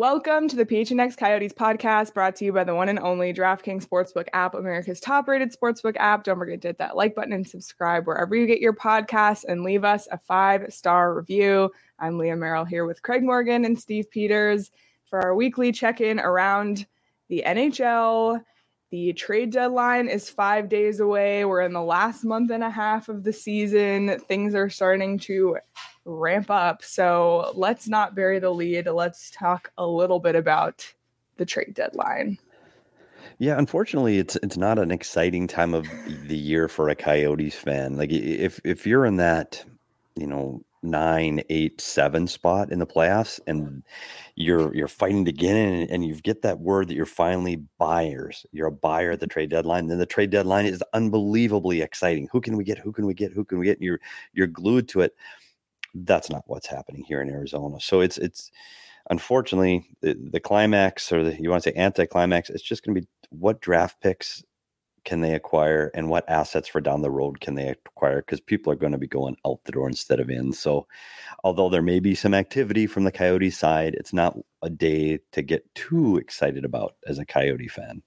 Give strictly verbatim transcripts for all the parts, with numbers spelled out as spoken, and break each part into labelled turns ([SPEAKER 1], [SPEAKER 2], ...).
[SPEAKER 1] Welcome to the P H N X Coyotes podcast, brought to you by the one and only DraftKings Sportsbook app, America's top-rated sportsbook app. Don't forget to hit that like button and subscribe wherever you get your podcasts and leave us a five-star review. I'm Leah Merrill here with Craig Morgan and Steve Peters for our weekly check-in around the N H L. The trade deadline is five days away. We're in the last month and a half of the season. Things are starting to ramp up. So let's not bury the lead. Let's talk a little bit about the trade deadline.
[SPEAKER 2] Yeah, unfortunately, it's it's not an exciting time of the year for a Coyotes fan. Like if if you're in that, you know, nine, eight, seven spot in the playoffs, and you're you're fighting to get in, and, and you get that word that you're finally buyers. You're a buyer at the trade deadline. Then the trade deadline is unbelievably exciting. Who can we get? Who can we get? Who can we get? And you're you're glued to it. That's not what's happening here in Arizona. So it's it's unfortunately the, the climax, or the, you want to say anticlimax, it's just going to be what draft picks can they acquire and what assets for down the road can they acquire, because people are going to be going out the door instead of in. So although there may be some activity from the Coyote side, it's not a day to get too excited about as a Coyote fan.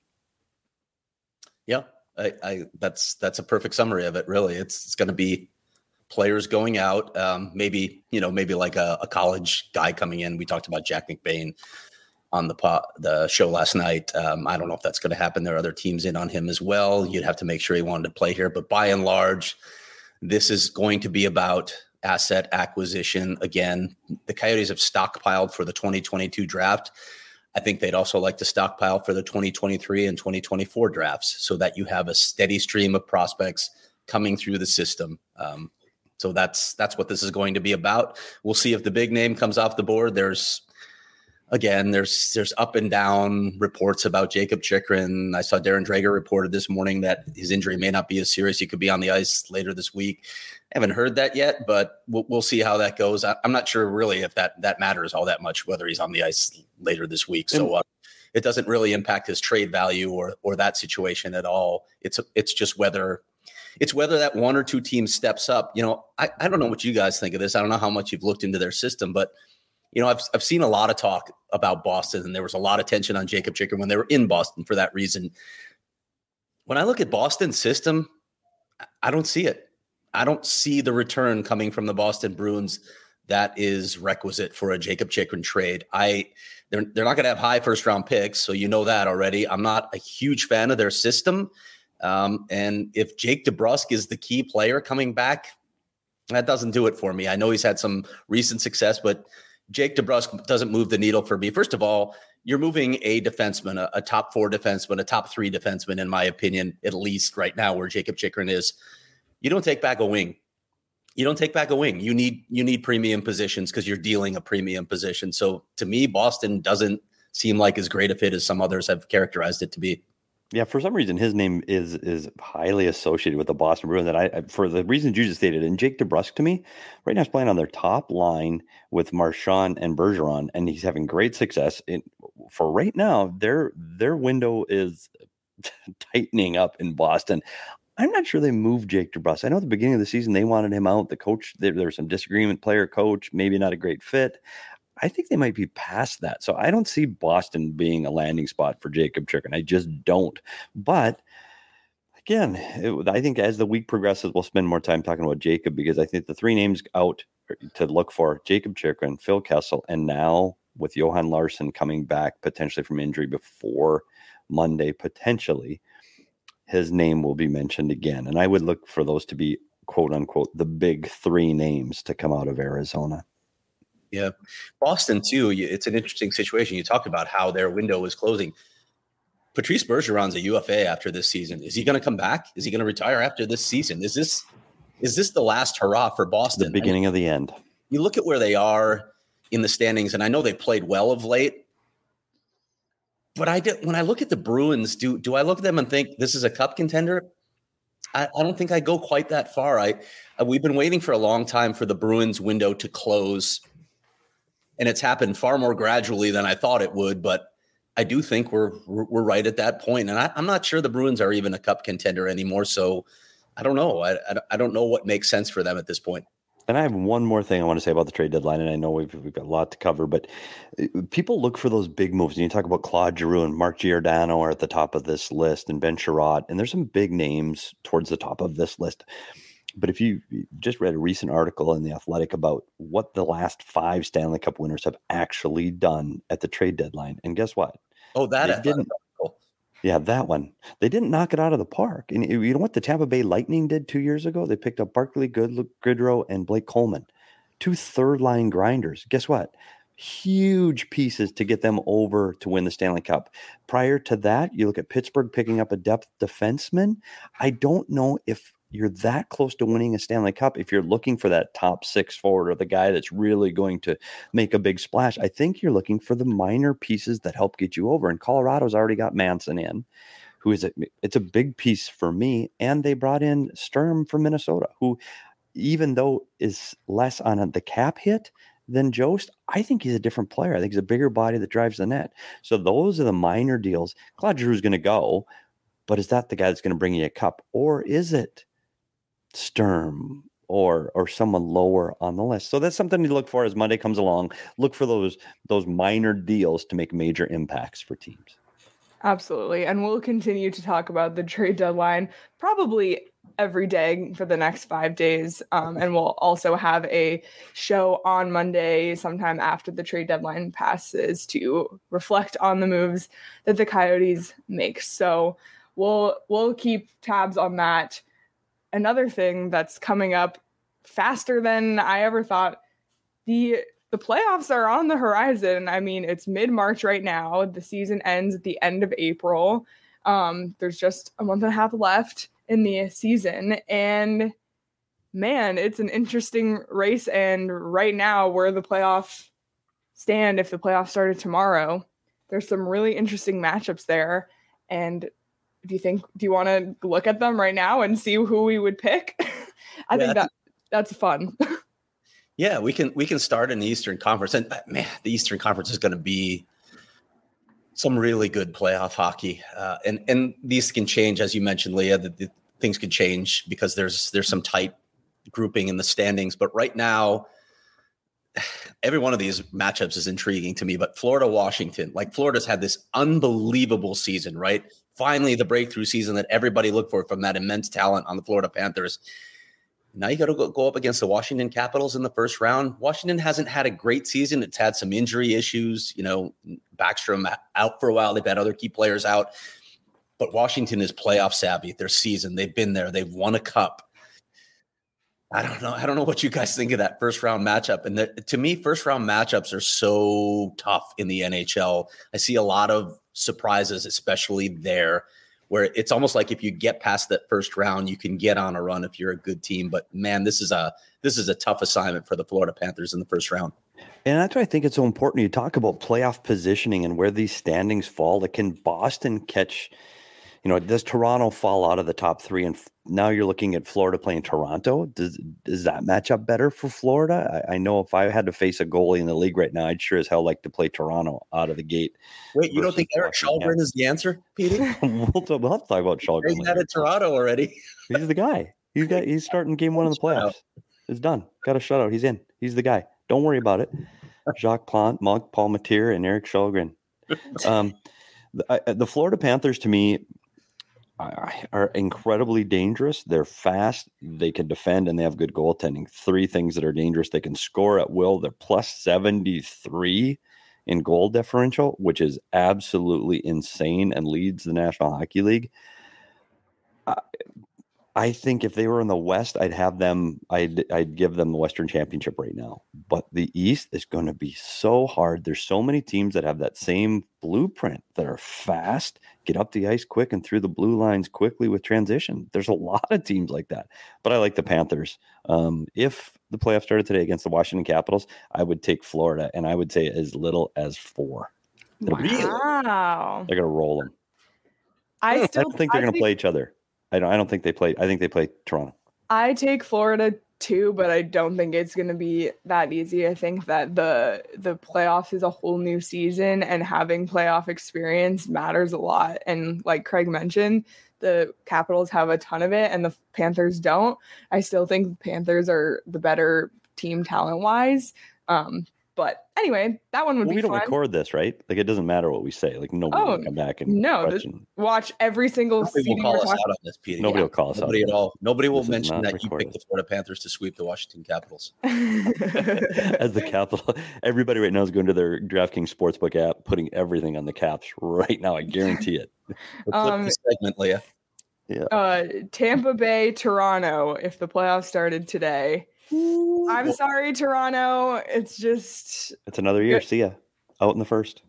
[SPEAKER 3] Yeah, I, I that's that's a perfect summary of it. Really, it's it's going to be players going out, um, maybe, you know, maybe like a, a college guy coming in. We talked about Jack McBain on the po- the show last night. Um, I don't know if that's going to happen. There are other teams in on him as well. You'd have to make sure he wanted to play here. But by and large, this is going to be about asset acquisition. Again, the Coyotes have stockpiled for the twenty twenty-two draft. I think they'd also like to stockpile for the twenty twenty-three and twenty twenty-four drafts so that you have a steady stream of prospects coming through the system. Um, So that's that's what this is going to be about. We'll see if the big name comes off the board. There's, again, there's there's up and down reports about Jakob Chychrun. I saw Darren Dreger reported this morning that his injury may not be as serious. He could be on the ice later this week. I haven't heard that yet, but we'll, we'll see how that goes. I, I'm not sure really if that that matters all that much, whether he's on the ice later this week. So uh, it doesn't really impact his trade value or or that situation at all. It's it's just whether. It's whether that one or two teams steps up. You know, I, I don't know what you guys think of this. I don't know how much you've looked into their system, but, you know, I've I've seen a lot of talk about Boston, and there was a lot of tension on Jakob Chychrun when they were in Boston for that reason. When I look at Boston's system, I don't see it. I don't see the return coming from the Boston Bruins that is requisite for a Jakob Chychrun trade. I they're they're not going to have high first round picks, so you know that already. I'm not a huge fan of their system. Um, and if Jake DeBrusk is the key player coming back, that doesn't do it for me. I know he's had some recent success, but Jake DeBrusk doesn't move the needle for me. First of all, you're moving a defenseman, a, a top four defenseman, a top three defenseman, in my opinion, at least right now where Jakob Chychrun is. You don't take back a wing. You don't take back a wing. You need you need premium positions because you're dealing a premium position. So to me, Boston doesn't seem like as great a fit as some others have characterized it to be.
[SPEAKER 2] Yeah, for some reason, his name is is highly associated with the Boston Bruins. That I, for the reasons you just stated, and Jake DeBrusk to me, right now is playing on their top line with Marchand and Bergeron, and he's having great success. In, for right now, their their window is tightening up in Boston. I'm not sure they moved Jake DeBrusk. I know at the beginning of the season they wanted him out. The coach, there, there was some disagreement, player coach, maybe not a great fit. I think they might be past that. So I don't see Boston being a landing spot for Jakob Chychrun. I just don't. But again, it, I think as the week progresses, we'll spend more time talking about Jakob, because I think the three names out to look for: Jakob Chychrun, Phil Kessel, and now with Johan Larsson coming back potentially from injury before Monday, potentially, his name will be mentioned again. And I would look for those to be, quote unquote, the big three names to come out of Arizona.
[SPEAKER 3] Yeah. Boston, too, it's an interesting situation. You talked about how their window is closing. Patrice Bergeron's a U F A after this season. Is he going to come back? Is he going to retire after this season? Is this is this the last hurrah for Boston?
[SPEAKER 2] The beginning
[SPEAKER 3] I mean,
[SPEAKER 2] of the end.
[SPEAKER 3] You look at where they are in the standings, and I know they've played well of late. But I did, when I look at the Bruins, do do I look at them and think this is a cup contender? I, I don't think I go quite that far. I, I we've been waiting for a long time for the Bruins window to close, and it's happened far more gradually than I thought it would. But I do think we're we're, we're right at that point, and I, I'm not sure the Bruins are even a cup contender anymore. So I don't know. I, I I don't know what makes sense for them at this point.
[SPEAKER 2] And I have one more thing I want to say about the trade deadline, and I know we've, we've got a lot to cover, but people look for those big moves. And you talk about Claude Giroux and Mark Giordano are at the top of this list, and Ben Sherratt, and there's some big names towards the top of this list. But if you just read a recent article in The Athletic about what the last five Stanley Cup winners have actually done at the trade deadline, and guess what?
[SPEAKER 3] Oh, that
[SPEAKER 2] they didn't. Article. Yeah, that one. They didn't knock it out of the park. And you know what the Tampa Bay Lightning did two years ago? They picked up Barclay Goodrow and Blake Coleman, two third-line grinders. Guess what? Huge pieces to get them over to win the Stanley Cup. Prior to that, you look at Pittsburgh picking up a depth defenseman. I don't know if you're that close to winning a Stanley Cup if you're looking for that top six forward or the guy that's really going to make a big splash. I think you're looking for the minor pieces that help get you over. And Colorado's already got Manson in, who is a, it's a big piece for me. And they brought in Sturm from Minnesota, who, even though is less on the cap hit than Jost, I think he's a different player. I think he's a bigger body that drives the net. So those are the minor deals. Claude Giroux's going to go, but is that the guy that's going to bring you a cup? Or is it Sturm or or someone lower on the list? So that's something to look for as Monday comes along. Look for those those minor deals to make major impacts for teams.
[SPEAKER 1] Absolutely. And we'll continue to talk about the trade deadline probably every day for the next five days. Um, and we'll also have a show on Monday sometime after the trade deadline passes to reflect on the moves that the Coyotes make. So we'll we'll keep tabs on that. Another thing that's coming up faster than I ever thought, the the playoffs are on the horizon. I mean, it's mid-March right now. The season ends at the end of April. Um, there's just a month and a half left in the season. And man, it's an interesting race. And right now, where the playoffs stand, if the playoffs started tomorrow, there's some really interesting matchups there. And do you think, do you want to look at them right now and see who we would pick? I yeah, think that that's fun.
[SPEAKER 3] Yeah, we can, we can start in the Eastern Conference, and man, the Eastern Conference is going to be some really good playoff hockey. Uh, and, and these can change, as you mentioned, Leah, that the things could change because there's, there's some tight grouping in the standings, but right now, every one of these matchups is intriguing to me, but Florida, Washington, like Florida's had this unbelievable season, right? Finally, the breakthrough season that everybody looked for from that immense talent on the Florida Panthers. Now you got to go, go up against the Washington Capitals in the first round. Washington hasn't had a great season. It's had some injury issues. You know, Backstrom out for a while. They've had other key players out. But Washington is playoff savvy. Their season, they've been there. They've won a cup. I don't know. I don't know what you guys think of that first round matchup. And the, to me, first round matchups are so tough in the N H L. I see a lot of surprises, especially there, where it's almost like if you get past that first round, you can get on a run if you're a good team. But man, this is a this is a tough assignment for the Florida Panthers in the first round.
[SPEAKER 2] And that's why I think it's so important. You talk about playoff positioning and where these standings fall. Like, can Boston catch? You know, does Toronto fall out of the top three? And f- now you're looking at Florida playing Toronto. Does does that match up better for Florida? I, I know if I had to face a goalie in the league right now, I'd sure as hell like to play Toronto out of the gate.
[SPEAKER 3] Wait, you don't think Erik Källgren is the answer, Peter?
[SPEAKER 2] we'll, talk, we'll have to talk about Källgren.
[SPEAKER 3] He's out of Toronto already.
[SPEAKER 2] He's the guy. He's got. He's starting game one of the playoffs. It's done. Got a shutout. He's in. He's the guy. Don't worry about it. Jacques Plante, Monk, Paul Matier, and Erik Källgren. Um, the, I, the Florida Panthers, to me, are incredibly dangerous. They're fast, they can defend, and they have good goaltending. Three things that are dangerous. They can score at will. They're plus seventy-three in goal differential, which is absolutely insane and leads the National Hockey League. Uh, I think if they were in the West, I'd have them, I'd, I'd give them the Western Championship right now. But the East is going to be so hard. There's so many teams that have that same blueprint that are fast, get up the ice quick and through the blue lines quickly with transition. There's a lot of teams like that. But I like the Panthers. Um, if the playoffs started today against the Washington Capitals, I would take Florida, and I would say as little as four.
[SPEAKER 1] Wow.
[SPEAKER 2] They're going to roll them.
[SPEAKER 1] I,
[SPEAKER 2] I
[SPEAKER 1] still
[SPEAKER 2] don't think they're going to play each other. I don't. I don't think they play. I think they play Toronto.
[SPEAKER 1] I take Florida too, but I don't think it's going to be that easy. I think that the the playoffs is a whole new season, and having playoff experience matters a lot. And like Craig mentioned, the Capitals have a ton of it and the Panthers don't. I still think the Panthers are the better team talent-wise. Um, But anyway, that one would
[SPEAKER 2] well,
[SPEAKER 1] be
[SPEAKER 2] we don't
[SPEAKER 1] fun.
[SPEAKER 2] record this, right? Like, it doesn't matter what we say. Like, nobody
[SPEAKER 1] Oh,
[SPEAKER 2] will come back and
[SPEAKER 1] no, this,
[SPEAKER 2] question.
[SPEAKER 1] watch every single
[SPEAKER 3] Nobody will
[SPEAKER 1] season
[SPEAKER 3] call
[SPEAKER 1] we're
[SPEAKER 3] us
[SPEAKER 1] talking-
[SPEAKER 3] out on this, Peter.
[SPEAKER 2] Nobody
[SPEAKER 3] Yeah.
[SPEAKER 2] will call us
[SPEAKER 3] Nobody
[SPEAKER 2] out.
[SPEAKER 3] at all. Nobody will
[SPEAKER 2] This is
[SPEAKER 3] mention
[SPEAKER 2] not
[SPEAKER 3] that you
[SPEAKER 2] recorded.
[SPEAKER 3] picked the Florida Panthers to sweep the Washington Capitals.
[SPEAKER 2] As the Capital, everybody right now is going to their DraftKings Sportsbook app, putting everything on the Caps right now. I guarantee it.
[SPEAKER 3] Flip
[SPEAKER 1] Um,
[SPEAKER 3] the segment, Leah.
[SPEAKER 2] Yeah.
[SPEAKER 1] uh, Tampa Bay, Toronto, if the playoffs started today. I'm sorry, Toronto. It's just
[SPEAKER 2] It's another year. See ya. Out in the first.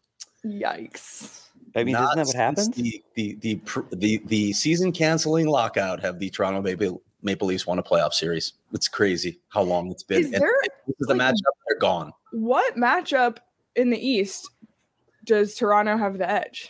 [SPEAKER 1] yikes.
[SPEAKER 2] I mean,
[SPEAKER 3] Not
[SPEAKER 2] isn't that what
[SPEAKER 3] since
[SPEAKER 2] happens?
[SPEAKER 3] The the the pr- the, the season canceling lockout have the Toronto Maple, Maple Leafs won a playoff series. It's crazy how long it's been.
[SPEAKER 1] Is
[SPEAKER 3] And
[SPEAKER 1] there
[SPEAKER 3] this is the
[SPEAKER 1] like-
[SPEAKER 3] matchup. They're gone.
[SPEAKER 1] what matchup in the East does Toronto have the edge?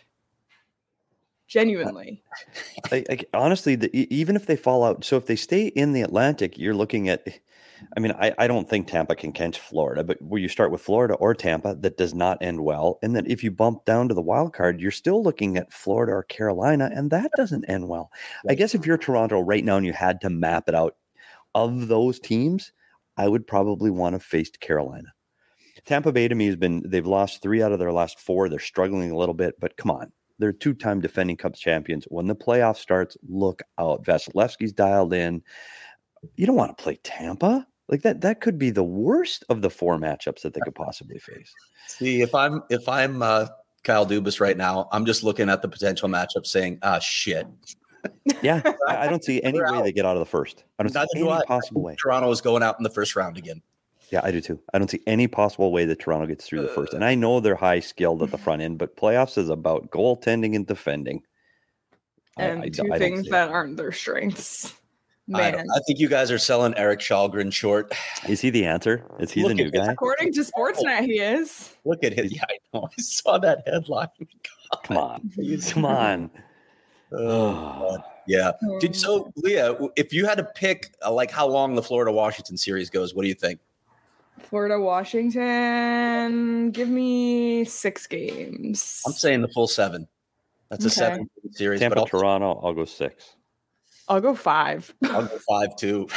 [SPEAKER 1] Genuinely.
[SPEAKER 2] I, I, honestly, the, e- even if they fall out, so if they stay in the Atlantic, you're looking at. I mean, I, I don't think Tampa can catch Florida, but where you start with Florida or Tampa, that does not end well. And then if you bump down to the wild card, you're still looking at Florida or Carolina, and that doesn't end well. I guess if you're Toronto right now and you had to map it out of those teams, I would probably want to face Carolina. Tampa Bay to me has been, they've lost three out of their last four. They're struggling a little bit, but come on. They're two-time defending Cup champions. When the playoff starts, look out. Vasilevsky's dialed in. You don't want to play Tampa. Like that, that could be the worst of the four matchups that they could possibly face.
[SPEAKER 3] See, if I'm if I'm uh, Kyle Dubas right now, I'm just looking at the potential matchup, saying, "Ah, shit."
[SPEAKER 2] Yeah, I, I don't see any way they get out of the first. I don't
[SPEAKER 3] Neither
[SPEAKER 2] see
[SPEAKER 3] do
[SPEAKER 2] any
[SPEAKER 3] I.
[SPEAKER 2] possible way.
[SPEAKER 3] Toronto is going out in the first round again.
[SPEAKER 2] Yeah, I do too. I don't see any possible way that Toronto gets through the first. And I know they're high skilled at the front end, but playoffs is about goaltending and defending.
[SPEAKER 1] And
[SPEAKER 2] I, I,
[SPEAKER 1] two
[SPEAKER 2] I don't
[SPEAKER 1] things
[SPEAKER 2] see
[SPEAKER 1] that
[SPEAKER 2] it.
[SPEAKER 1] aren't their strengths.
[SPEAKER 3] I,
[SPEAKER 1] Man.
[SPEAKER 3] don't- I think you guys are selling Eric Shalgren short.
[SPEAKER 2] Is he the answer? Is he
[SPEAKER 3] Look
[SPEAKER 2] the new
[SPEAKER 3] at this.
[SPEAKER 2] guy?
[SPEAKER 1] According to Sportsnet, he is.
[SPEAKER 3] Look at it. Yeah, I know. I saw that headline. God.
[SPEAKER 2] Come on. Come on.
[SPEAKER 3] Oh, God. Yeah. Did, so, Leah, if you had to pick uh, like how long the Florida Washington series goes, what do you think?
[SPEAKER 1] Florida, Washington. Give me six games.
[SPEAKER 3] I'm saying the full seven. That's a
[SPEAKER 1] Okay.
[SPEAKER 3] seven series,
[SPEAKER 2] Tampa,
[SPEAKER 3] but I'll,
[SPEAKER 2] Toronto, I'll go six.
[SPEAKER 1] I'll go five.
[SPEAKER 3] I'll go five too.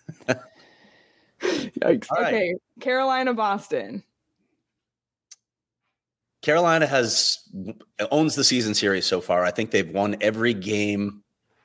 [SPEAKER 1] Yikes.
[SPEAKER 3] All right.
[SPEAKER 1] Okay. Carolina, Boston.
[SPEAKER 3] Carolina has owns the season series so far. I think they've won every game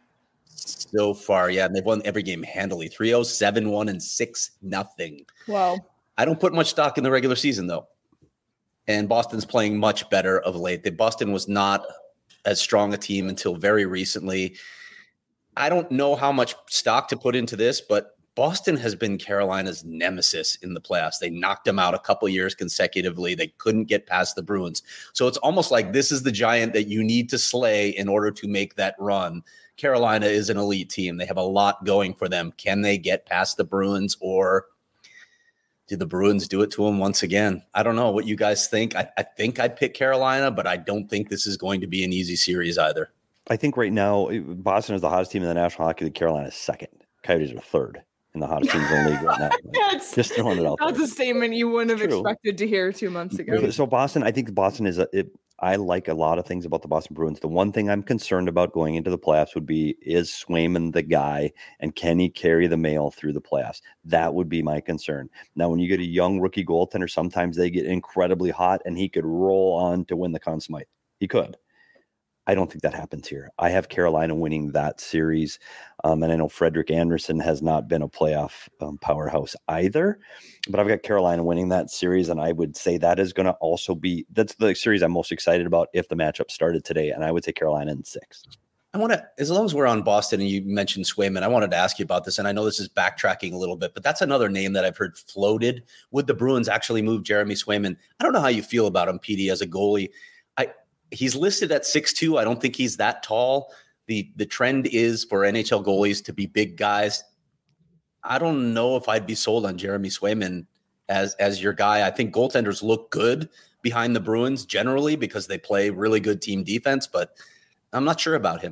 [SPEAKER 3] so far. Yeah, and they've won every game handily. three oh, seven one, and six nothing.
[SPEAKER 1] Well,
[SPEAKER 3] I don't put much stock in the regular season, though. And Boston's playing much better of late. The Boston was not as strong a team until very recently. I don't know how much stock to put into this, but Boston has been Carolina's nemesis in the playoffs. They knocked them out a couple years consecutively. They couldn't get past the Bruins. So it's almost like this is the giant that you need to slay in order to make that run. Carolina is an elite team. They have a lot going for them. Can they get past the Bruins, or did the Bruins do it to them once again? I don't know what you guys think. I, I think I'd pick Carolina, but I don't think this is going to be an easy series either.
[SPEAKER 2] I think right now Boston is the hottest team in the National Hockey League. Carolina is second. Coyotes are third in the hottest teams in the league right now.
[SPEAKER 1] that's,
[SPEAKER 2] Just throwing it out
[SPEAKER 1] that's
[SPEAKER 2] there.
[SPEAKER 1] a statement you wouldn't have
[SPEAKER 2] True.
[SPEAKER 1] expected to hear two months ago.
[SPEAKER 2] So Boston, I think Boston is a. It, I like a lot of things about the Boston Bruins. The one thing I'm concerned about going into the playoffs would be, is Swayman the guy, and can he carry the mail through the playoffs? That would be my concern. Now, when you get a young rookie goaltender, sometimes they get incredibly hot, and he could roll on to win the Conn Smythe. He could. I don't think that happens here. I have Carolina winning that series. Um, and I know Frederick Anderson has not been a playoff um, powerhouse either, but I've got Carolina winning that series. And I would say that is going to also be, that's the series I'm most excited about if the matchup started today. And I would say Carolina in six.
[SPEAKER 3] I want to, as long as we're on Boston and you mentioned Swayman, I wanted to ask you about this. And I know this is backtracking a little bit, but that's another name that I've heard floated. Would the Bruins actually move Jeremy Swayman? I don't know how you feel about him, P D, as a goalie. I, He's listed at six two. I don't think he's that tall. The the trend is for N H L goalies to be big guys. I don't know if I'd be sold on Jeremy Swayman as, as your guy. I think goaltenders look good behind the Bruins generally because they play really good team defense, but I'm not sure about him.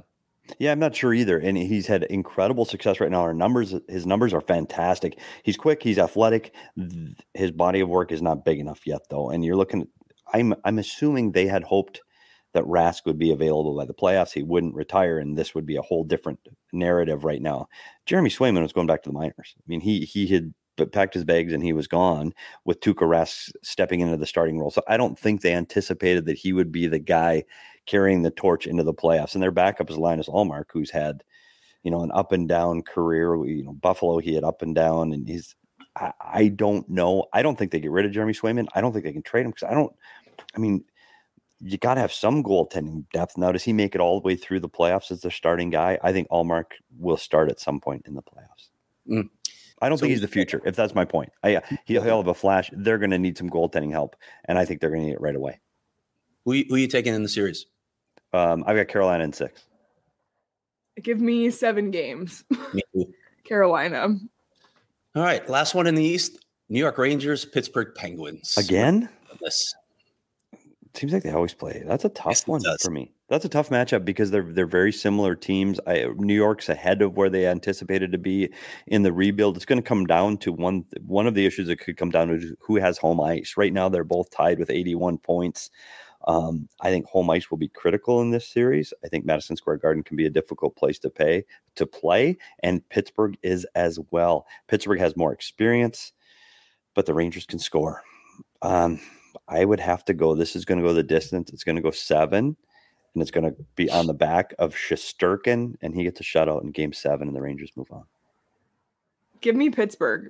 [SPEAKER 2] Yeah, I'm not sure either. And he's had incredible success right now. Our numbers, his numbers are fantastic. He's quick. He's athletic. His body of work is not big enough yet, though. And you're looking. I'm I'm assuming they had hoped that Rask would be available by the playoffs. He wouldn't retire, and this would be a whole different narrative right now. Jeremy Swayman was going back to the minors. I mean, he he had packed his bags and he was gone with Tuukka Rask stepping into the starting role. So I don't think they anticipated that he would be the guy carrying the torch into the playoffs. And their backup is Linus Ullmark, who's had, you know, an up and down career. You know, Buffalo, he had up and down, and he's. I, I don't know. I don't think they get rid of Jeremy Swayman. I don't think they can trade him because I don't. I mean, you got to have some goaltending depth. Now, does he make it all the way through the playoffs as their starting guy? I think Ullmark will start at some point in the playoffs. Mm. I don't so, think he's the future, if that's my point. I, he'll, he'll have a flash. They're going to need some goaltending help, and I think they're going to need it right away.
[SPEAKER 3] Who, who are you taking in the series?
[SPEAKER 2] Um, I've got Carolina in six.
[SPEAKER 1] Give me seven games. Carolina.
[SPEAKER 3] All right, last one in the East. New York Rangers, Pittsburgh Penguins.
[SPEAKER 2] Again?
[SPEAKER 3] This
[SPEAKER 2] seems like they always play. That's a tough yes, one for me. That's a tough matchup because they're they're very similar teams. I, New York's ahead of where they anticipated to be in the rebuild. It's going to come down to one one of the issues that could come down to who has home ice. Right now, they're both tied with eighty-one points. Um, I think home ice will be critical in this series. I think Madison Square Garden can be a difficult place to pay to play, and Pittsburgh is as well. Pittsburgh has more experience, but the Rangers can score. Um, I would have to go. This is going to go the distance. It's going to go seven, and it's going to be on the back of Shesterkin, and he gets a shutout in Game Seven, and the Rangers move on.
[SPEAKER 1] Give me Pittsburgh.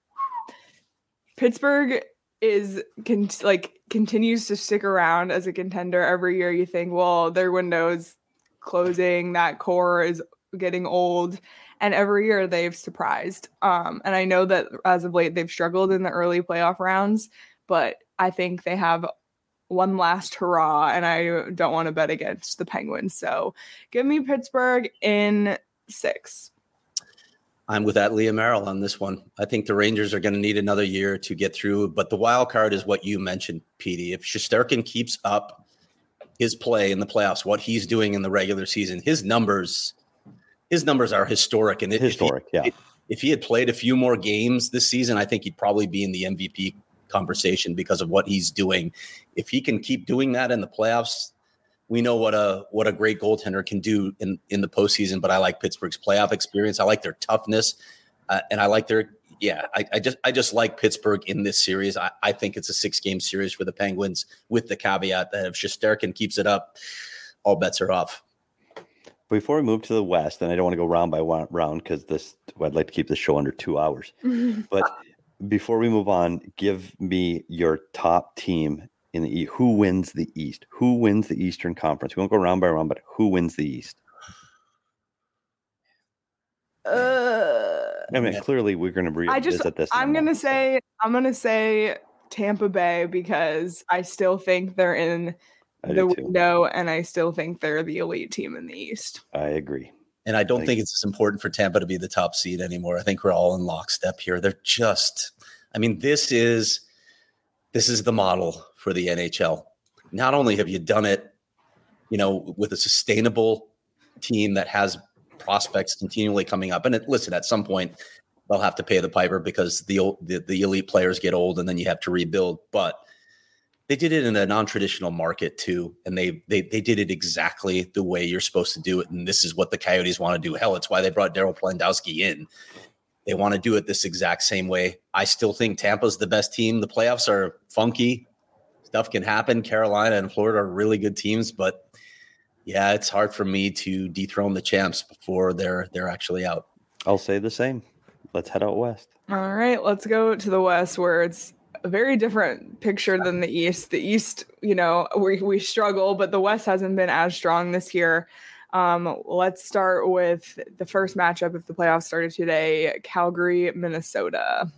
[SPEAKER 1] Pittsburgh is con- like continues to stick around as a contender every year. You think, well, their window's closing, that core is getting old, and every year they've surprised. Um, and I know that as of late they've struggled in the early playoff rounds, but I think they have one last hurrah, and I don't want to bet against the Penguins. So give me Pittsburgh in six.
[SPEAKER 3] I'm with that Leah Merrill on this one. I think the Rangers are going to need another year to get through, but the wild card is what you mentioned, Petey. If Shesterkin keeps up his play in the playoffs, what he's doing in the regular season, his numbers, his numbers are historic. And
[SPEAKER 2] historic,
[SPEAKER 3] if he,
[SPEAKER 2] yeah.
[SPEAKER 3] If, if he had played a few more games this season, I think he'd probably be in the M V P conversation because of what he's doing. If he can keep doing that in the playoffs, we know what a what a great goaltender can do in, in the postseason, but I like Pittsburgh's playoff experience. I like their toughness, uh, and I like their yeah. I, I just I just like Pittsburgh in this series. I, I think it's a six game series for the Penguins, with the caveat that if Shesterkin keeps it up, all bets are off.
[SPEAKER 2] Before we move to the West, and I don't want to go round by one round because this I'd like to keep the show under two hours. But before we move on, give me your top team in the East. Who wins the East? Who wins the Eastern Conference? We won't go round by round, but who wins the East?
[SPEAKER 1] Uh,
[SPEAKER 2] I mean, clearly we're going to revisit this.
[SPEAKER 1] I'm going to say I'm going to say Tampa Bay because I still think they're in
[SPEAKER 2] I
[SPEAKER 1] the window, and I still think they're the elite team in the East.
[SPEAKER 2] I agree.
[SPEAKER 3] And I don't I think it's as important for Tampa to be the top seed anymore. I think we're all in lockstep here. They're just, I mean, this is this is the model for the N H L. Not only have you done it, you know, with a sustainable team that has prospects continually coming up. And it, listen, at some point they'll have to pay the piper because the, the the elite players get old and then you have to rebuild. But they did it in a non-traditional market too, and they they they did it exactly the way you're supposed to do it. And this is what the Coyotes want to do. Hell, it's why they brought Daryl Plandowski in. They want to do it this exact same way. I still think Tampa's the best team. The playoffs are funky. Stuff can happen. Carolina and Florida are really good teams, but yeah, it's hard for me to dethrone the champs before they're they're actually out.
[SPEAKER 2] I'll say the same. Let's head out west.
[SPEAKER 1] All right, let's go to the West, where it's a very different picture than the East. The East, you know, we we struggle, but the West hasn't been as strong this year. Um, let's start with the first matchup if the playoffs started today, Calgary, Minnesota.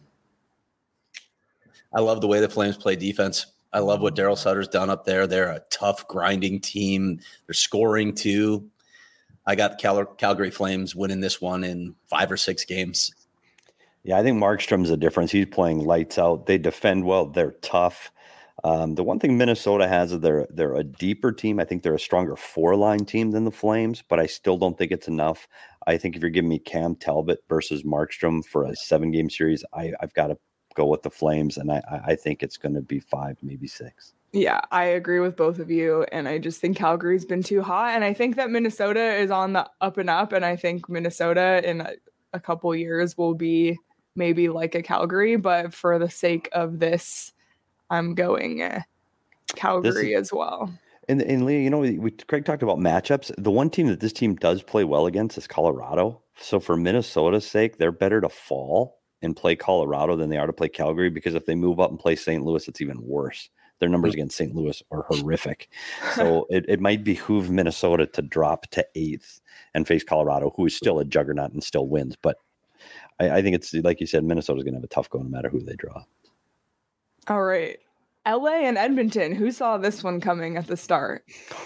[SPEAKER 3] I love the way the Flames play defense. I love what Daryl Sutter's done up there. They're a tough, grinding team. They're scoring too. I got Cal- Calgary Flames winning this one in five or six games.
[SPEAKER 2] Yeah, I think Markstrom's a difference. He's playing lights out. They defend well. They're tough. Um, the one thing Minnesota has is they're they're a deeper team. I think they're a stronger four line team than the Flames, but I still don't think it's enough. I think if you're giving me Cam Talbot versus Markstrom for a seven game series, I, I've got to go with the Flames, and I, I think it's going to be five, maybe six.
[SPEAKER 1] Yeah, I agree with both of you, and I just think Calgary's been too hot, and I think that Minnesota is on the up and up, and I think Minnesota in a, a couple years will be maybe like a Calgary, but for the sake of this, I'm going uh, Calgary is, as well.
[SPEAKER 2] And, and Leah, you know, we, we Craig talked about matchups. The one team that this team does play well against is Colorado. So for Minnesota's sake, they're better to fall and play Colorado than they are to play Calgary, because if they move up and play Saint Louis, it's even worse. Their numbers against Saint Louis are horrific. So it, it might behoove Minnesota to drop to eighth and face Colorado, who is still a juggernaut and still wins. But I, I think it's, like you said, Minnesota's going to have a tough go no matter who they draw.
[SPEAKER 1] All right. L A and Edmonton. Who saw this one coming at the start?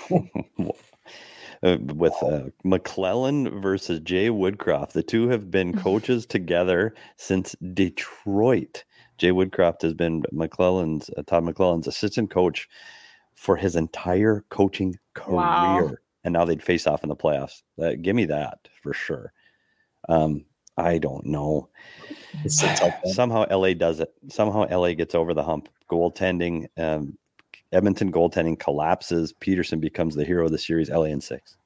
[SPEAKER 2] uh, with uh, McClellan versus Jay Woodcroft. The two have been coaches together since Detroit. Jay Woodcroft has been McClellan's uh, Todd McClellan's assistant coach for his entire coaching career, wow. And now they'd face off in the playoffs. Uh, give me that for sure. Um, I don't know. Somehow L A does it. Somehow L A gets over the hump. Goaltending, um, Edmonton goaltending collapses. Peterson becomes the hero of the series. L A in six.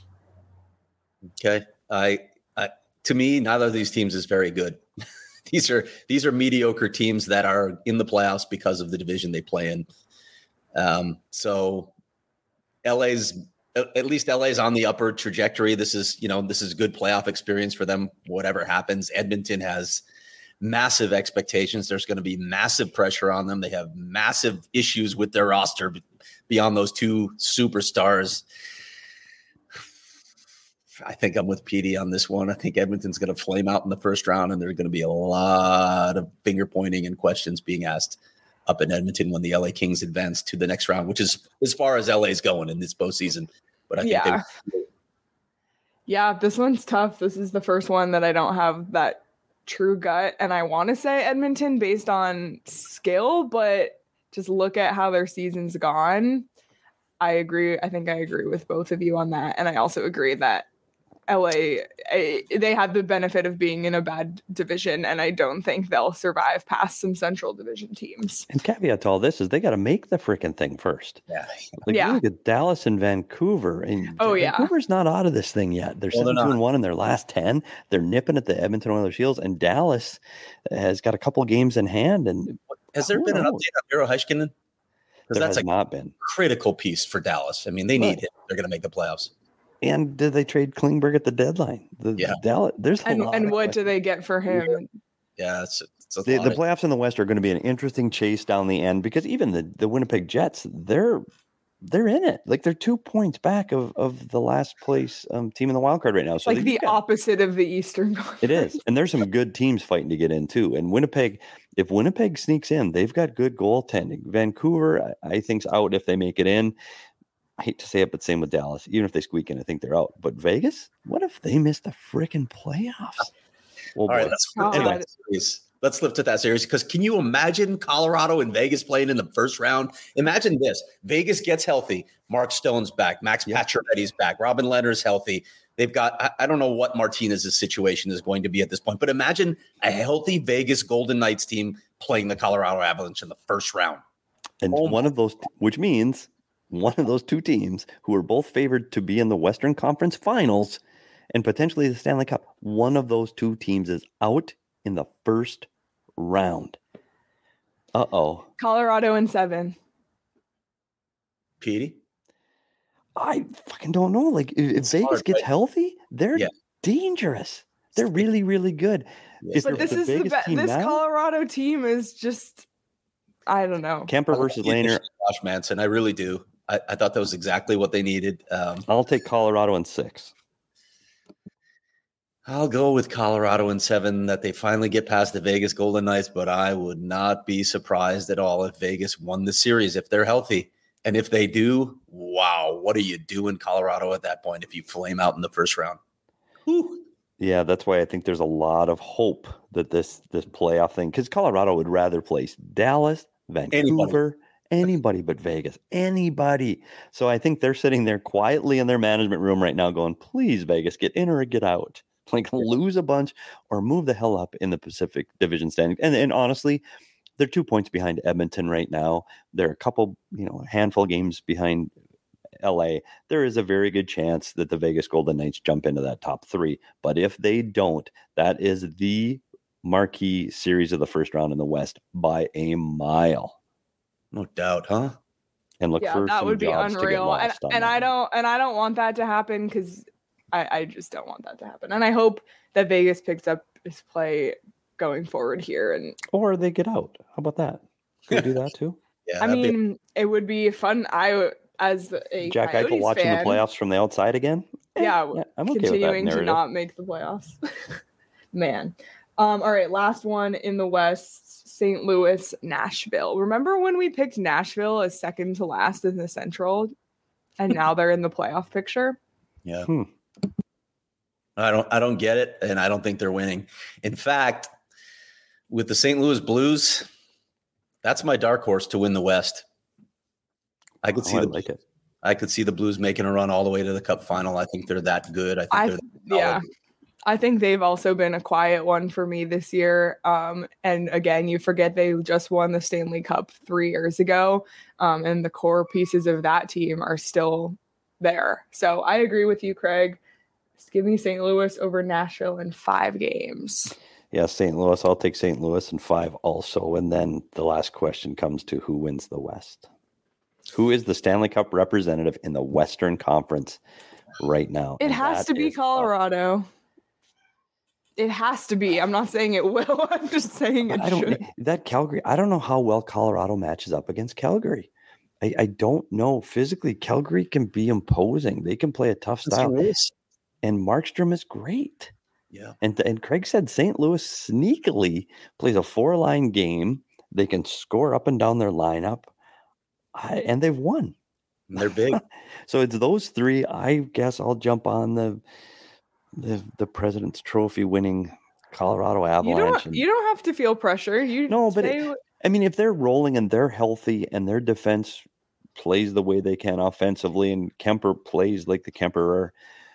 [SPEAKER 3] Okay, I, I to me, neither of these teams is very good. These are these are mediocre teams that are in the playoffs because of the division they play in. Um, so L A's at least L A's on the upward trajectory. This is, you know, this is a good playoff experience for them, whatever happens. Edmonton has massive expectations. There's going to be massive pressure on them. They have massive issues with their roster beyond those two superstars. I think I'm with Petey on this one. I think Edmonton's going to flame out in the first round, and there's going to be a lot of finger pointing and questions being asked up in Edmonton when the L A Kings advance to the next round, which is as far as L A's going in this postseason. But I think
[SPEAKER 1] yeah. Yeah, this one's tough. This is the first one that I don't have that true gut, and I want to say Edmonton based on skill, but just look at how their season's gone. I agree. I think I agree with both of you on that, and I also agree that L A, they had the benefit of being in a bad division, and I don't think they'll survive past some Central Division teams.
[SPEAKER 2] And caveat to all this is they got to make the freaking thing first.
[SPEAKER 3] Yeah.
[SPEAKER 2] Like,
[SPEAKER 1] yeah.
[SPEAKER 2] Look at Dallas and Vancouver. And
[SPEAKER 1] oh, yeah.
[SPEAKER 2] Vancouver's not out of this thing yet. They're
[SPEAKER 3] well,
[SPEAKER 2] seven two and one in their last ten. They're nipping at the Edmonton Oilers' heels, and Dallas has got a couple games in hand. And
[SPEAKER 3] has there been an update on Miro Heiskanen? Because that's a
[SPEAKER 2] not been
[SPEAKER 3] critical piece for Dallas. I mean, they need but, him. They're going to make the playoffs.
[SPEAKER 2] And did they trade Klingberg at the deadline? The,
[SPEAKER 3] yeah.
[SPEAKER 2] Dallas, there's a
[SPEAKER 1] and,
[SPEAKER 2] lot
[SPEAKER 1] and what do they get for him?
[SPEAKER 3] Yeah, it's, it's a
[SPEAKER 2] the,
[SPEAKER 3] lot
[SPEAKER 2] the
[SPEAKER 3] of,
[SPEAKER 2] playoffs in the West are going to be an interesting chase down the end, because even the, the Winnipeg Jets, they're they're in it. Like, they're two points back of, of the last place um, team in the wild card right now. So
[SPEAKER 1] like the got, opposite of the Eastern Conference.
[SPEAKER 2] It is. And there's some good teams fighting to get in too. And Winnipeg, if Winnipeg sneaks in, they've got good goaltending. Vancouver, I, I think's out if they make it in. I hate to say it, but same with Dallas. Even if they squeak in, I think they're out. But Vegas, what if they miss the freaking playoffs?
[SPEAKER 3] Well, all right, let's flip, to that series. let's flip to that series, because can you imagine Colorado and Vegas playing in the first round? Imagine this. Vegas gets healthy. Mark Stone's back. Max yeah. Pacioretty's back. Robin Lehner's healthy. They've got – I don't know what Martinez's situation is going to be at this point, but imagine a healthy Vegas Golden Knights team playing the Colorado Avalanche in the first round.
[SPEAKER 2] And oh one of those – which means – one of those two teams who are both favored to be in the Western Conference Finals and potentially the Stanley Cup, one of those two teams is out in the first round. Uh-oh.
[SPEAKER 1] Colorado in seven.
[SPEAKER 3] Petey?
[SPEAKER 2] I fucking don't know. Like, if it's Vegas hard, gets right? healthy, they're yeah. dangerous. They're really, really good.
[SPEAKER 1] Yeah. But this the is the be- this now? Colorado team is just, I don't know.
[SPEAKER 2] Kemper versus Lehner.
[SPEAKER 3] Josh Manson, I really do. I, I thought that was exactly what they needed. Um,
[SPEAKER 2] I'll take Colorado in six.
[SPEAKER 3] I'll go with Colorado in seven, that they finally get past the Vegas Golden Knights, but I would not be surprised at all if Vegas won the series if they're healthy. And if they do, wow, what do you do in Colorado at that point if you flame out in the first round? Whew.
[SPEAKER 2] Yeah, that's why I think there's a lot of hope that this this playoff thing, because Colorado would rather place Dallas, Vancouver, Anybody. anybody but Vegas, anybody. So I think they're sitting there quietly in their management room right now going, please, Vegas, get in or get out. Like lose a bunch or move the hell up in the Pacific Division standing. And, and honestly, they're two points behind Edmonton right now. They're a couple, you know, a handful of games behind L A. There is a very good chance that the Vegas Golden Knights jump into that top three. But if they don't, that is the marquee series of the first round in the West by a mile.
[SPEAKER 3] No doubt, huh?
[SPEAKER 2] And look
[SPEAKER 1] yeah,
[SPEAKER 2] for
[SPEAKER 1] that
[SPEAKER 2] some
[SPEAKER 1] would be
[SPEAKER 2] jobs
[SPEAKER 1] unreal.
[SPEAKER 2] to get
[SPEAKER 1] And,
[SPEAKER 2] lost on
[SPEAKER 1] and
[SPEAKER 2] that.
[SPEAKER 1] I don't and I don't want that to happen because I, I just don't want that to happen. And I hope that Vegas picks up his play going forward here. And
[SPEAKER 2] or they get out. How about that? Can we do that too?
[SPEAKER 3] Yeah,
[SPEAKER 1] I
[SPEAKER 3] that'd be-
[SPEAKER 1] mean, it would be fun. I as a
[SPEAKER 2] Jack
[SPEAKER 1] Coyotes
[SPEAKER 2] Eichel watching
[SPEAKER 1] fan,
[SPEAKER 2] the playoffs from the outside again. Eh,
[SPEAKER 1] Yeah,
[SPEAKER 2] yeah, I'm okay
[SPEAKER 1] continuing
[SPEAKER 2] with that
[SPEAKER 1] to
[SPEAKER 2] narrative.
[SPEAKER 1] not make the playoffs. Man. Um, all right, last one in the West, Saint Louis, Nashville. Remember when we picked Nashville as second to last in the Central, and now they're in the playoff picture?
[SPEAKER 3] Yeah.
[SPEAKER 2] Hmm.
[SPEAKER 3] I don't I don't get it, and I don't think they're winning. In fact, with the Saint Louis Blues, that's my dark horse to win the West. I could
[SPEAKER 2] Oh,
[SPEAKER 3] see
[SPEAKER 2] I
[SPEAKER 3] the
[SPEAKER 2] like it.
[SPEAKER 3] I could see the Blues making a run all the way to the Cup final. I think they're that good. I think
[SPEAKER 1] I
[SPEAKER 3] they're that
[SPEAKER 1] yeah.
[SPEAKER 3] solid.
[SPEAKER 1] I think they've also been a quiet one for me this year. Um, and again, you forget they just won the Stanley Cup three years ago, um, and the core pieces of that team are still there. So I agree with you, Craig. Just give me Saint Louis over Nashville in five games.
[SPEAKER 2] Yeah, Saint Louis. I'll take Saint Louis in five also. And then the last question comes to who wins the West? Who is the Stanley Cup representative in the Western Conference right now?
[SPEAKER 1] It
[SPEAKER 2] And
[SPEAKER 1] has
[SPEAKER 2] that
[SPEAKER 1] to be
[SPEAKER 2] is tough.
[SPEAKER 1] Colorado. It has to be. I'm not saying it will. I'm just saying it
[SPEAKER 2] I don't
[SPEAKER 1] should.
[SPEAKER 2] that Calgary. I don't know how well Colorado matches up against Calgary. I, I don't know. Physically, Calgary can be imposing. They can play a tough style. And Markstrom is great.
[SPEAKER 3] Yeah.
[SPEAKER 2] And and Craig said Saint Louis sneakily plays a four-line game. They can score up and down their lineup, I, and they've won.
[SPEAKER 3] And they're big.
[SPEAKER 2] So it's those three. I guess I'll jump on the the, the President's Trophy winning Colorado
[SPEAKER 1] You
[SPEAKER 2] Avalanche.
[SPEAKER 1] don't.
[SPEAKER 2] and-
[SPEAKER 1] You don't have to feel pressure. You
[SPEAKER 2] No, but
[SPEAKER 1] say
[SPEAKER 2] it- I mean, if they're rolling and they're healthy and their defense plays the way they can offensively, and Kemper plays like the Kemperer,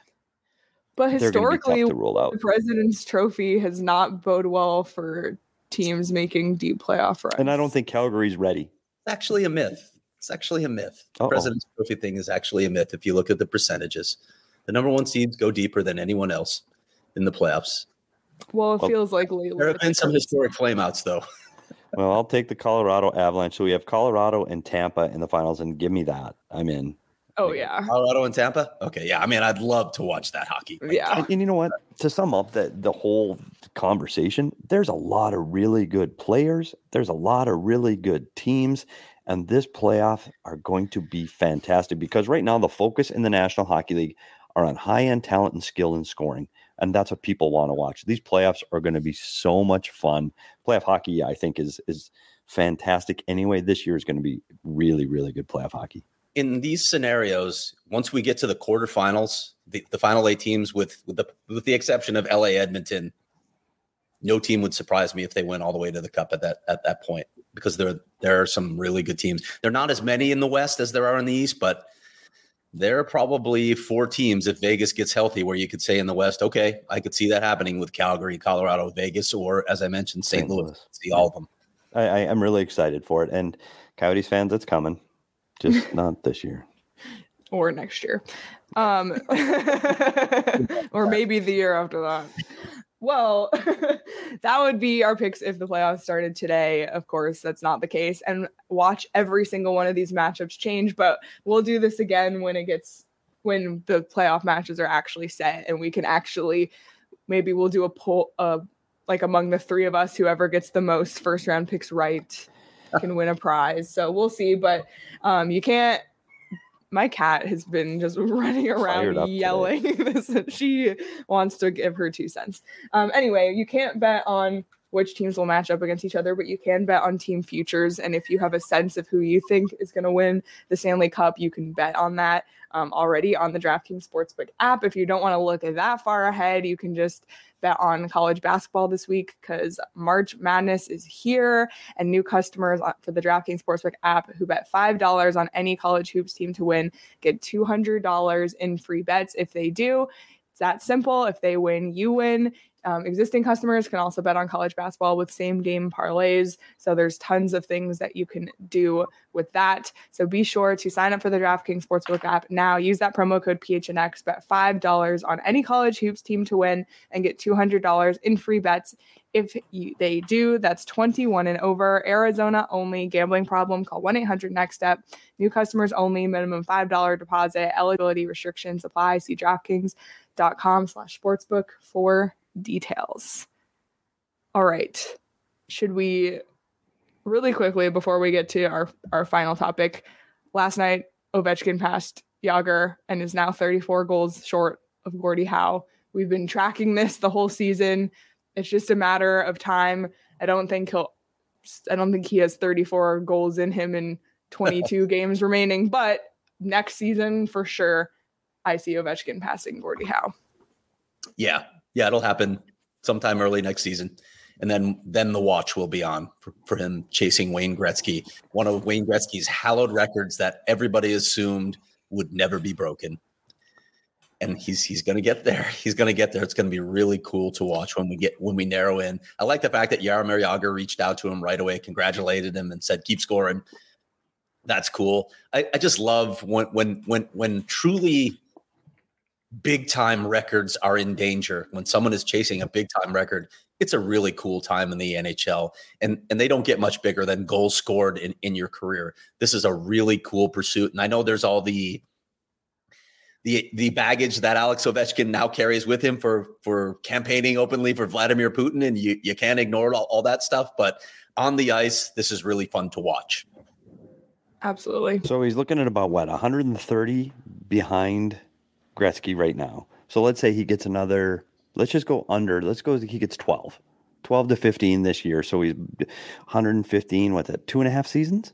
[SPEAKER 1] but
[SPEAKER 2] they're going to be
[SPEAKER 1] historically,
[SPEAKER 2] tough to roll out.
[SPEAKER 1] the President's Trophy has not bode well for teams making deep playoff runs.
[SPEAKER 2] And I don't think Calgary's ready.
[SPEAKER 3] It's actually a myth. It's actually a myth. The
[SPEAKER 2] Uh-oh.
[SPEAKER 3] President's Trophy thing is actually a myth. If you look at the percentages, the number one seeds go deeper than anyone else in the playoffs.
[SPEAKER 1] Well, it
[SPEAKER 2] Well,
[SPEAKER 1] feels like lately.
[SPEAKER 3] There have been some historic flameouts, though.
[SPEAKER 2] Well, I'll take the Colorado Avalanche. So we have Colorado and Tampa in the finals, and give me that. I'm in.
[SPEAKER 1] Oh yeah,
[SPEAKER 3] Colorado and Tampa. Okay, yeah. I mean, I'd love to watch that hockey. Like,
[SPEAKER 1] yeah.
[SPEAKER 2] And, and you know what? To sum up the, the whole conversation, there's a lot of really good players. There's a lot of really good teams. And this playoff are going to be fantastic because right now the focus in the National Hockey League are on high-end talent and skill and scoring. And that's what people want to watch. These playoffs are going to be so much fun. Playoff hockey, I think, is is fantastic. Anyway, this year is going to be really, really good playoff hockey.
[SPEAKER 3] in these scenarios, once we get to the quarterfinals, the, the final eight teams, with with the with the exception of L A Edmonton, no team would surprise me if they went all the way to the Cup at that at that point, because there there are some really good teams. There are not as many in the West as there are in the East, but there are probably four teams if Vegas gets healthy where you could say in the West, okay, I could see that happening with Calgary, Colorado, Vegas, or as I mentioned, Saint Louis.
[SPEAKER 2] Louis.
[SPEAKER 3] See all of them.
[SPEAKER 2] I, I am really excited for it. And Coyotes fans, it's coming. Just not this year.
[SPEAKER 1] Or next year. Um, or maybe the year after that. Well, that would be our picks if the playoffs started today. Of course, that's not the case. And watch every single one of these matchups change. But we'll do this again when it gets when the playoff matches are actually set, and we can actually maybe we'll do a poll uh, like among the three of us, whoever gets the most first round picks right can win a prize. So we'll see. But um, you can't. My cat has been just running
[SPEAKER 2] Fired
[SPEAKER 1] around
[SPEAKER 2] up
[SPEAKER 1] yelling this. She wants to give her two cents. Um, anyway, you can't bet on which teams will match up against each other, but you can bet on team futures. And if you have a sense of who you think is going to win the Stanley Cup, you can bet on that um, already on the DraftKings Sportsbook app. If you don't want to look that far ahead, you can just bet on college basketball this week because March Madness is here, and new customers for the DraftKings Sportsbook app who bet five dollars on any college hoops team to win get two hundred dollars in free bets if they do. It's that simple. If they win, you win. Um, existing customers can also bet on college basketball with same game parlays. So there's tons of things that you can do with that. So be sure to sign up for the DraftKings Sportsbook app now. Use that promo code P H N X, bet five dollars on any college hoops team to win and get two hundred dollars in free bets. If you, they do, that's twenty-one and over. Arizona only. Gambling problem? Call one eight hundred next step. New customers only. Minimum five dollars deposit. Eligibility restrictions apply. See DraftKings.com slash sportsbook for details. All right. Should we really quickly, before we get to our, our final topic, last night Ovechkin passed Jágr and is now thirty-four goals short of Gordie Howe. We've been tracking this the whole season. It's just a matter of time. I don't think he'll I don't think he has thirty-four goals in him in twenty-two games remaining, but next season for sure I see Ovechkin passing Gordie Howe.
[SPEAKER 3] Yeah. Yeah, it'll happen sometime early next season. And then then the watch will be on for, for him chasing Wayne Gretzky, one of Wayne Gretzky's hallowed records that everybody assumed would never be broken. And he's he's going to get there. He's going to get there. It's going to be really cool to watch when we get when we narrow in. I like the fact that Jaromir Jágr reached out to him right away, congratulated him, and said, "Keep scoring." That's cool. I, I just love when when when when truly big time records are in danger. When someone is chasing a big time record, it's a really cool time in the N H L. And, and they don't get much bigger than goals scored in, in your career. This is a really cool pursuit. And I know there's all the, the, the baggage that Alex Ovechkin now carries with him for, for campaigning openly for Vladimir Putin. And you, you can't ignore all, all that stuff, but on the ice, this is really fun to watch.
[SPEAKER 1] Absolutely.
[SPEAKER 2] So he's looking at about what, one hundred thirty behind Gretzky right now. So let's say he gets another, let's just go under, let's go, he gets twelve, twelve to fifteen this year. So he's one hundred fifteen, what's that, two and a half seasons?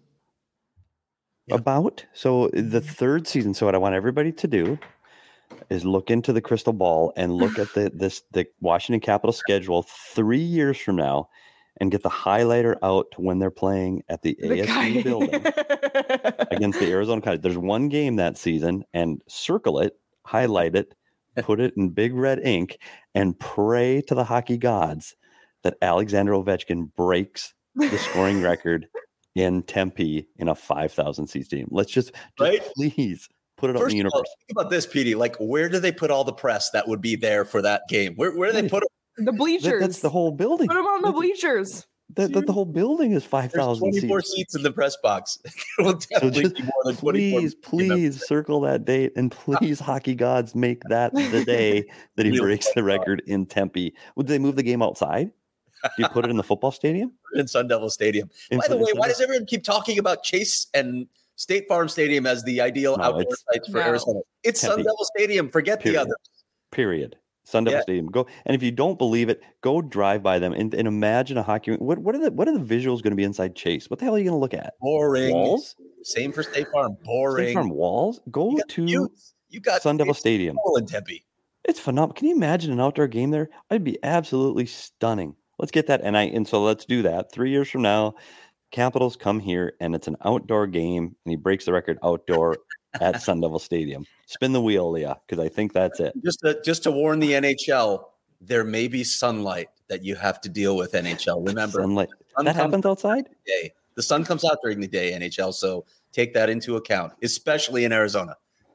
[SPEAKER 2] Yep. About. So the third season, so what I want everybody to do is look into the crystal ball and look at the this the Washington Capitals schedule three years from now and get the highlighter out to when they're playing at the, the A S U building against the Arizona Coyotes. There's one game that season, and circle it, highlight it, put it in big red ink, and pray to the hockey gods that Alexander Ovechkin breaks the scoring record in Tempe in a five thousand seat stadium. Let's just, just
[SPEAKER 3] right?
[SPEAKER 2] please put it up in the universe.
[SPEAKER 3] All, think about this, Petey. Like, where do they put all the press that would be there for that game? Where, where do they put them?
[SPEAKER 1] The bleachers.
[SPEAKER 2] That, that's the whole building.
[SPEAKER 1] Put them on the bleachers.
[SPEAKER 2] That, that the whole building is five thousand seats.
[SPEAKER 3] twenty-four seats in the press box. It will definitely
[SPEAKER 2] so just,
[SPEAKER 3] be more than
[SPEAKER 2] please, please circle that date, and please, hockey gods, make that the day that he breaks the record in Tempe. Would they move the game outside? Do you put it in the football stadium?
[SPEAKER 3] In Sun Devil Stadium. In By the way, why does everyone keep talking about Chase and State Farm Stadium as the ideal no, outdoor sites for no. Arizona? It's Tempe. Sun Devil Stadium. Forget Period. the others.
[SPEAKER 2] Period. Sun Devil yeah. Stadium. Go, and if you don't believe it, go drive by them and, and imagine a hockey. What what are the what are the visuals going to be inside Chase? What the hell are you going to look at?
[SPEAKER 3] Boring.
[SPEAKER 2] Walls.
[SPEAKER 3] Same for State Farm. Boring.
[SPEAKER 2] State Farm walls. Go
[SPEAKER 3] you
[SPEAKER 2] to
[SPEAKER 3] you, you got
[SPEAKER 2] Sun Devil Stadium.
[SPEAKER 3] In Tempe.
[SPEAKER 2] It's phenomenal. Can you imagine an outdoor game there? It'd be absolutely stunning. Let's get that. And I and so let's do that. Three years from now, Capitals come here and it's an outdoor game, and he breaks the record outdoor at Sun Devil Stadium. Spin the wheel, Leah, because I think that's it.
[SPEAKER 3] Just to, just to warn the N H L, there may be sunlight that you have to deal with, N H L. Remember,
[SPEAKER 2] sunlight. Sun that happens outside?
[SPEAKER 3] Day. The sun comes out during the day, N H L, so take that into account, especially in Arizona.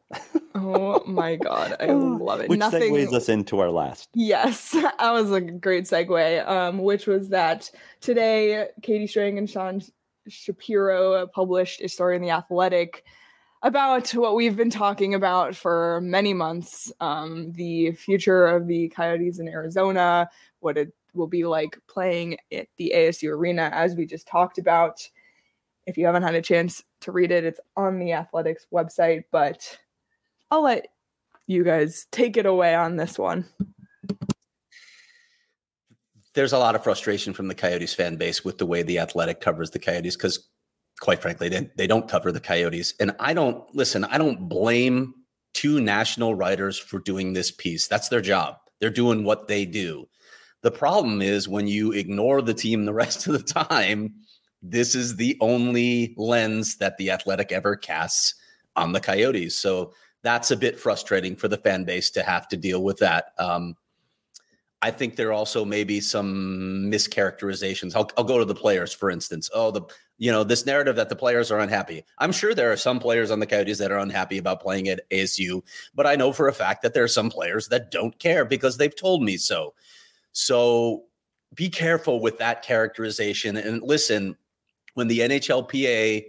[SPEAKER 1] Oh, my God. I love it.
[SPEAKER 2] Which
[SPEAKER 1] Nothing...
[SPEAKER 2] segues us into our last.
[SPEAKER 1] Yes, that was a great segue, um, which was that today, Katie Strang and Sean Shapiro published a story in The Athletic about what we've been talking about for many months, um, the future of the Coyotes in Arizona, what it will be like playing at the A S U Arena, as we just talked about. If you haven't had a chance to read it, it's on the Athletics website, but I'll let you guys take it away on this one.
[SPEAKER 3] there's a lot of frustration from the Coyotes fan base with the way the Athletic covers the Coyotes, because quite frankly, they, they don't cover the Coyotes. And I don't listen, I don't blame two national writers for doing this piece. That's their job. They're doing what they do. The problem is when you ignore the team the rest of the time, this is the only lens that the Athletic ever casts on the Coyotes. So that's a bit frustrating for the fan base to have to deal with that. Um, I think there also may be some mischaracterizations. I'll, I'll go to the players, for instance. Oh, the you know, this narrative that the players are unhappy. I'm sure there are some players on the Coyotes that are unhappy about playing at A S U, but I know for a fact that there are some players that don't care because they've told me so. So be careful with that characterization. And listen, when the N H L P A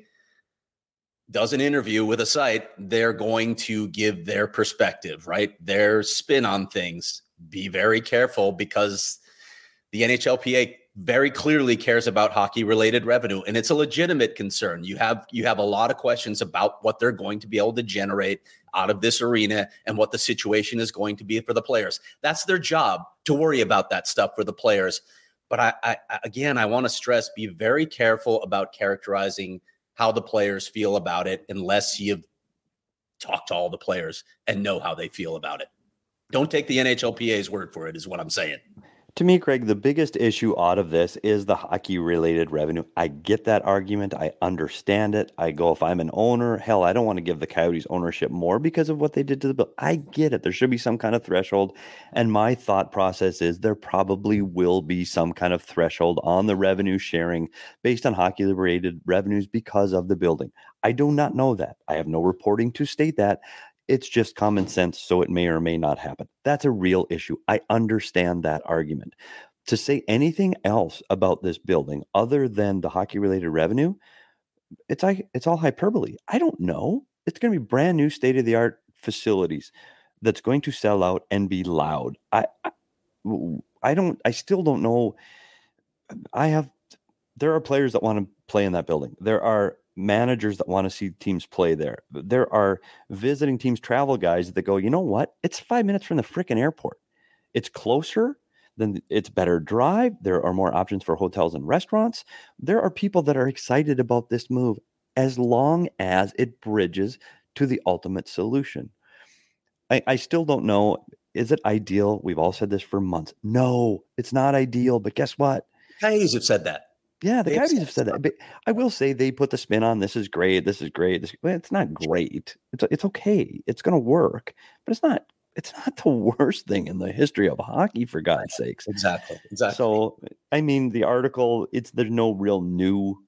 [SPEAKER 3] does an interview with a site, they're going to give their perspective, right? Their spin on things. Be very careful, because the N H L P A very clearly cares about hockey-related revenue, and it's a legitimate concern. You have you have a lot of questions about what they're going to be able to generate out of this arena and what the situation is going to be for the players. That's their job, to worry about that stuff for the players. But I, I again, I want to stress, be very careful about characterizing how the players feel about it unless you've talked to all the players and know how they feel about it. Don't take the N H L P A's word for it, is what I'm saying.
[SPEAKER 2] To me, Craig, the biggest issue out of this is the hockey-related revenue. I get that argument. I understand it. I go, if I'm an owner, hell, I don't want to give the Coyotes ownership more because of what they did to the bill. I get it. There should be some kind of threshold. And my thought process is there probably will be some kind of threshold on the revenue sharing based on hockey-related revenues because of the building. I do not know that. I have no reporting to state that. It's just common sense, so it may or may not happen. That's a real issue. I understand that argument. To say anything else about this building other than the hockey-related revenue, it's like it's all hyperbole. I don't know. It's going to be brand new state-of-the-art facilities that's going to sell out and be loud. I, I, I don't. I still don't know. I have. There are players that want to play in that building. There are managers that want to see teams play there. There are visiting teams, travel guys that go, you know what? It's five minutes from the freaking airport. It's closer, then it's better drive. There are more options for hotels and restaurants. There are people that are excited about this move as long as it bridges to the ultimate solution. I, I still don't know. Is it ideal? We've all said this for months. No, it's not ideal. But guess what?
[SPEAKER 3] Coyotes have said that.
[SPEAKER 2] Yeah, the Coyotes have said that. But I will say they put the spin on this is great. This is great. This, well, it's not great. It's it's okay. It's going to work, but it's not. It's not the worst thing in the history of hockey, for God's sakes.
[SPEAKER 3] Exactly. Exactly.
[SPEAKER 2] So, I mean, the article. It's there's no real new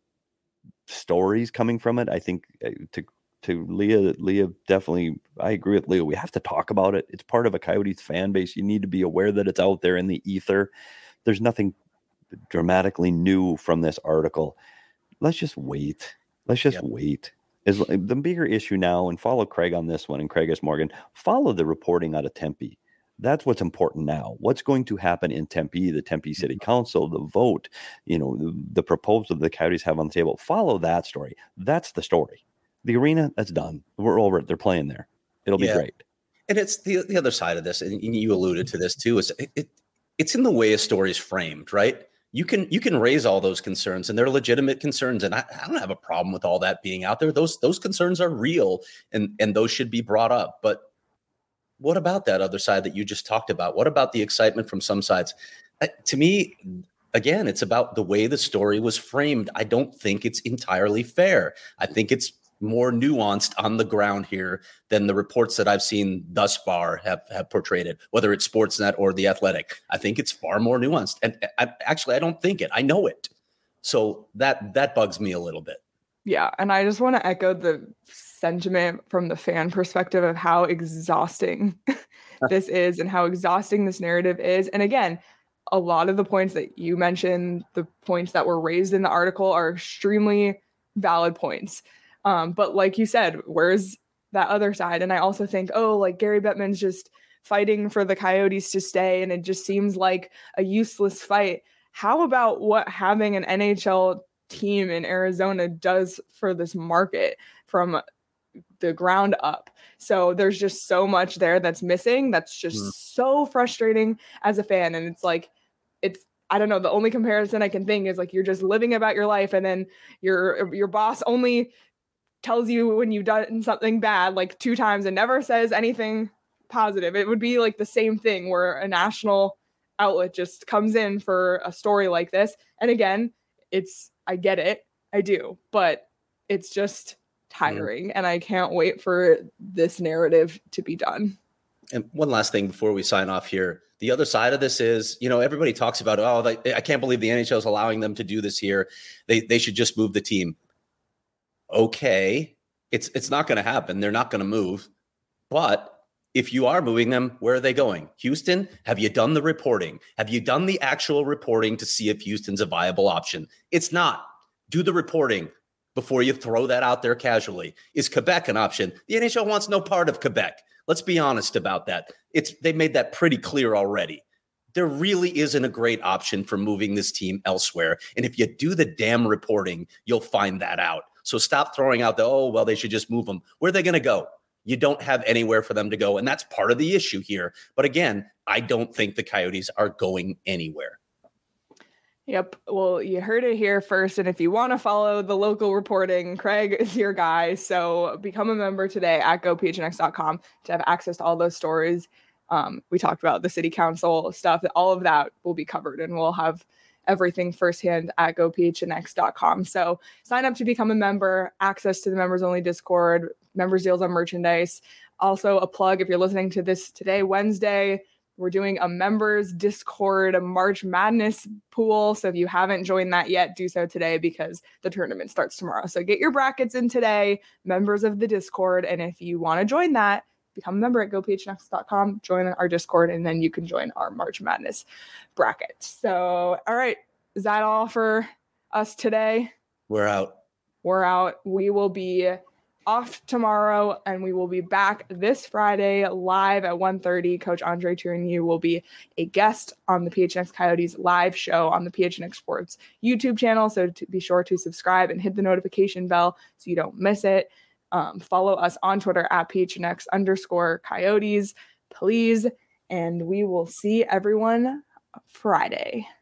[SPEAKER 2] stories coming from it. I think uh, to to Leah, Leah definitely. I agree with Leah. We have to talk about it. It's part of a Coyotes fan base. You need to be aware that it's out there in the ether. There's nothing dramatically new from this article. Let's just wait. Let's just yep. wait. Is the bigger issue now, and follow Craig on this one, and Craig S. Morgan, follow the reporting out of Tempe. That's what's important now. What's going to happen in Tempe, the Tempe City Council, the vote, you know, the, the proposal the Coyotes have on the table. Follow that story. That's the story. The arena, that's done. We're over it. They're playing there. It'll yeah. be great.
[SPEAKER 3] And it's the the other side of this, and you alluded to this too, is it, it it's in the way a story is framed, right? You can you can raise all those concerns, and they're legitimate concerns, and I, I don't have a problem with all that being out there. Those those concerns are real, and and those should be brought up. But what about that other side that you just talked about? What about the excitement from some sides? Uh, to me, again, it's about the way the story was framed. I don't think it's entirely fair. I think it's more nuanced on the ground here than the reports that I've seen thus far have, have portrayed it, whether it's Sportsnet or The Athletic. I think it's far more nuanced. And I, actually, I don't think it. I know it. So that that bugs me a little bit.
[SPEAKER 1] Yeah. And I just want to echo the sentiment from the fan perspective of how exhausting this is and how exhausting this narrative is. And again, a lot of the points that you mentioned, the points that were raised in the article, are extremely valid points. Um, but like you said, where's that other side? And I also think, oh, like Gary Bettman's just fighting for the Coyotes to stay, and it just seems like a useless fight. How about what having an N H L team in Arizona does for this market from the ground up? So there's just so much there that's missing. That's just mm. so frustrating as a fan. And it's like, it's I don't know. The only comparison I can think is like you're just living about your life, and then your your boss only tells you when you've done something bad like two times and never says anything positive. It would be like the same thing where a national outlet just comes in for a story like this. And again, it's I get it, I do, but it's just tiring, mm. and I can't wait for this narrative to be done.
[SPEAKER 3] And one last thing before we sign off here. The other side of this is, you know, everybody talks about, oh, they, I can't believe the N H L is allowing them to do this here. They they should just move the team. Okay, it's it's not going to happen. They're not going to move. But if you are moving them, where are they going? Houston, have you done the reporting? Have you done the actual reporting to see if Houston's a viable option? It's not. Do the reporting before you throw that out there casually. Is Quebec an option? The N H L wants no part of Quebec. Let's be honest about that. It's they made that pretty clear already. There really isn't a great option for moving this team elsewhere. And if you do the damn reporting, you'll find that out. So stop throwing out the, oh, well, they should just move them. Where are they going to go? You don't have anywhere for them to go. And that's part of the issue here. But again, I don't think the Coyotes are going anywhere.
[SPEAKER 1] Yep. Well, you heard it here first. And if you want to follow the local reporting, Craig is your guy. So become a member today at go p h n x dot com to have access to all those stories. Um, we talked about the city council stuff. All of that will be covered, and we'll have everything firsthand at go p h n x dot com. So sign up to become a member, access to the members only Discord, members deals on merchandise. Also a plug, if you're listening to this today, Wednesday, we're doing a members Discord a March Madness pool. So if you haven't joined that yet, do so today because the tournament starts tomorrow. So get your brackets in today, members of the Discord. And if you want to join that, become a member at go p h n x dot com, join our Discord, and then you can join our March Madness bracket. So, all right. Is that all for us today?
[SPEAKER 3] We're out.
[SPEAKER 1] We're out. We will be off tomorrow, and we will be back this Friday live at one thirty. Coach Andre Tourigny will be a guest on the P H N X Coyotes live show on the P H N X Sports YouTube channel. So to be sure to subscribe and hit the notification bell so you don't miss it. Um, follow us on Twitter at P H N X underscore Coyotes, please. And we will see everyone Friday.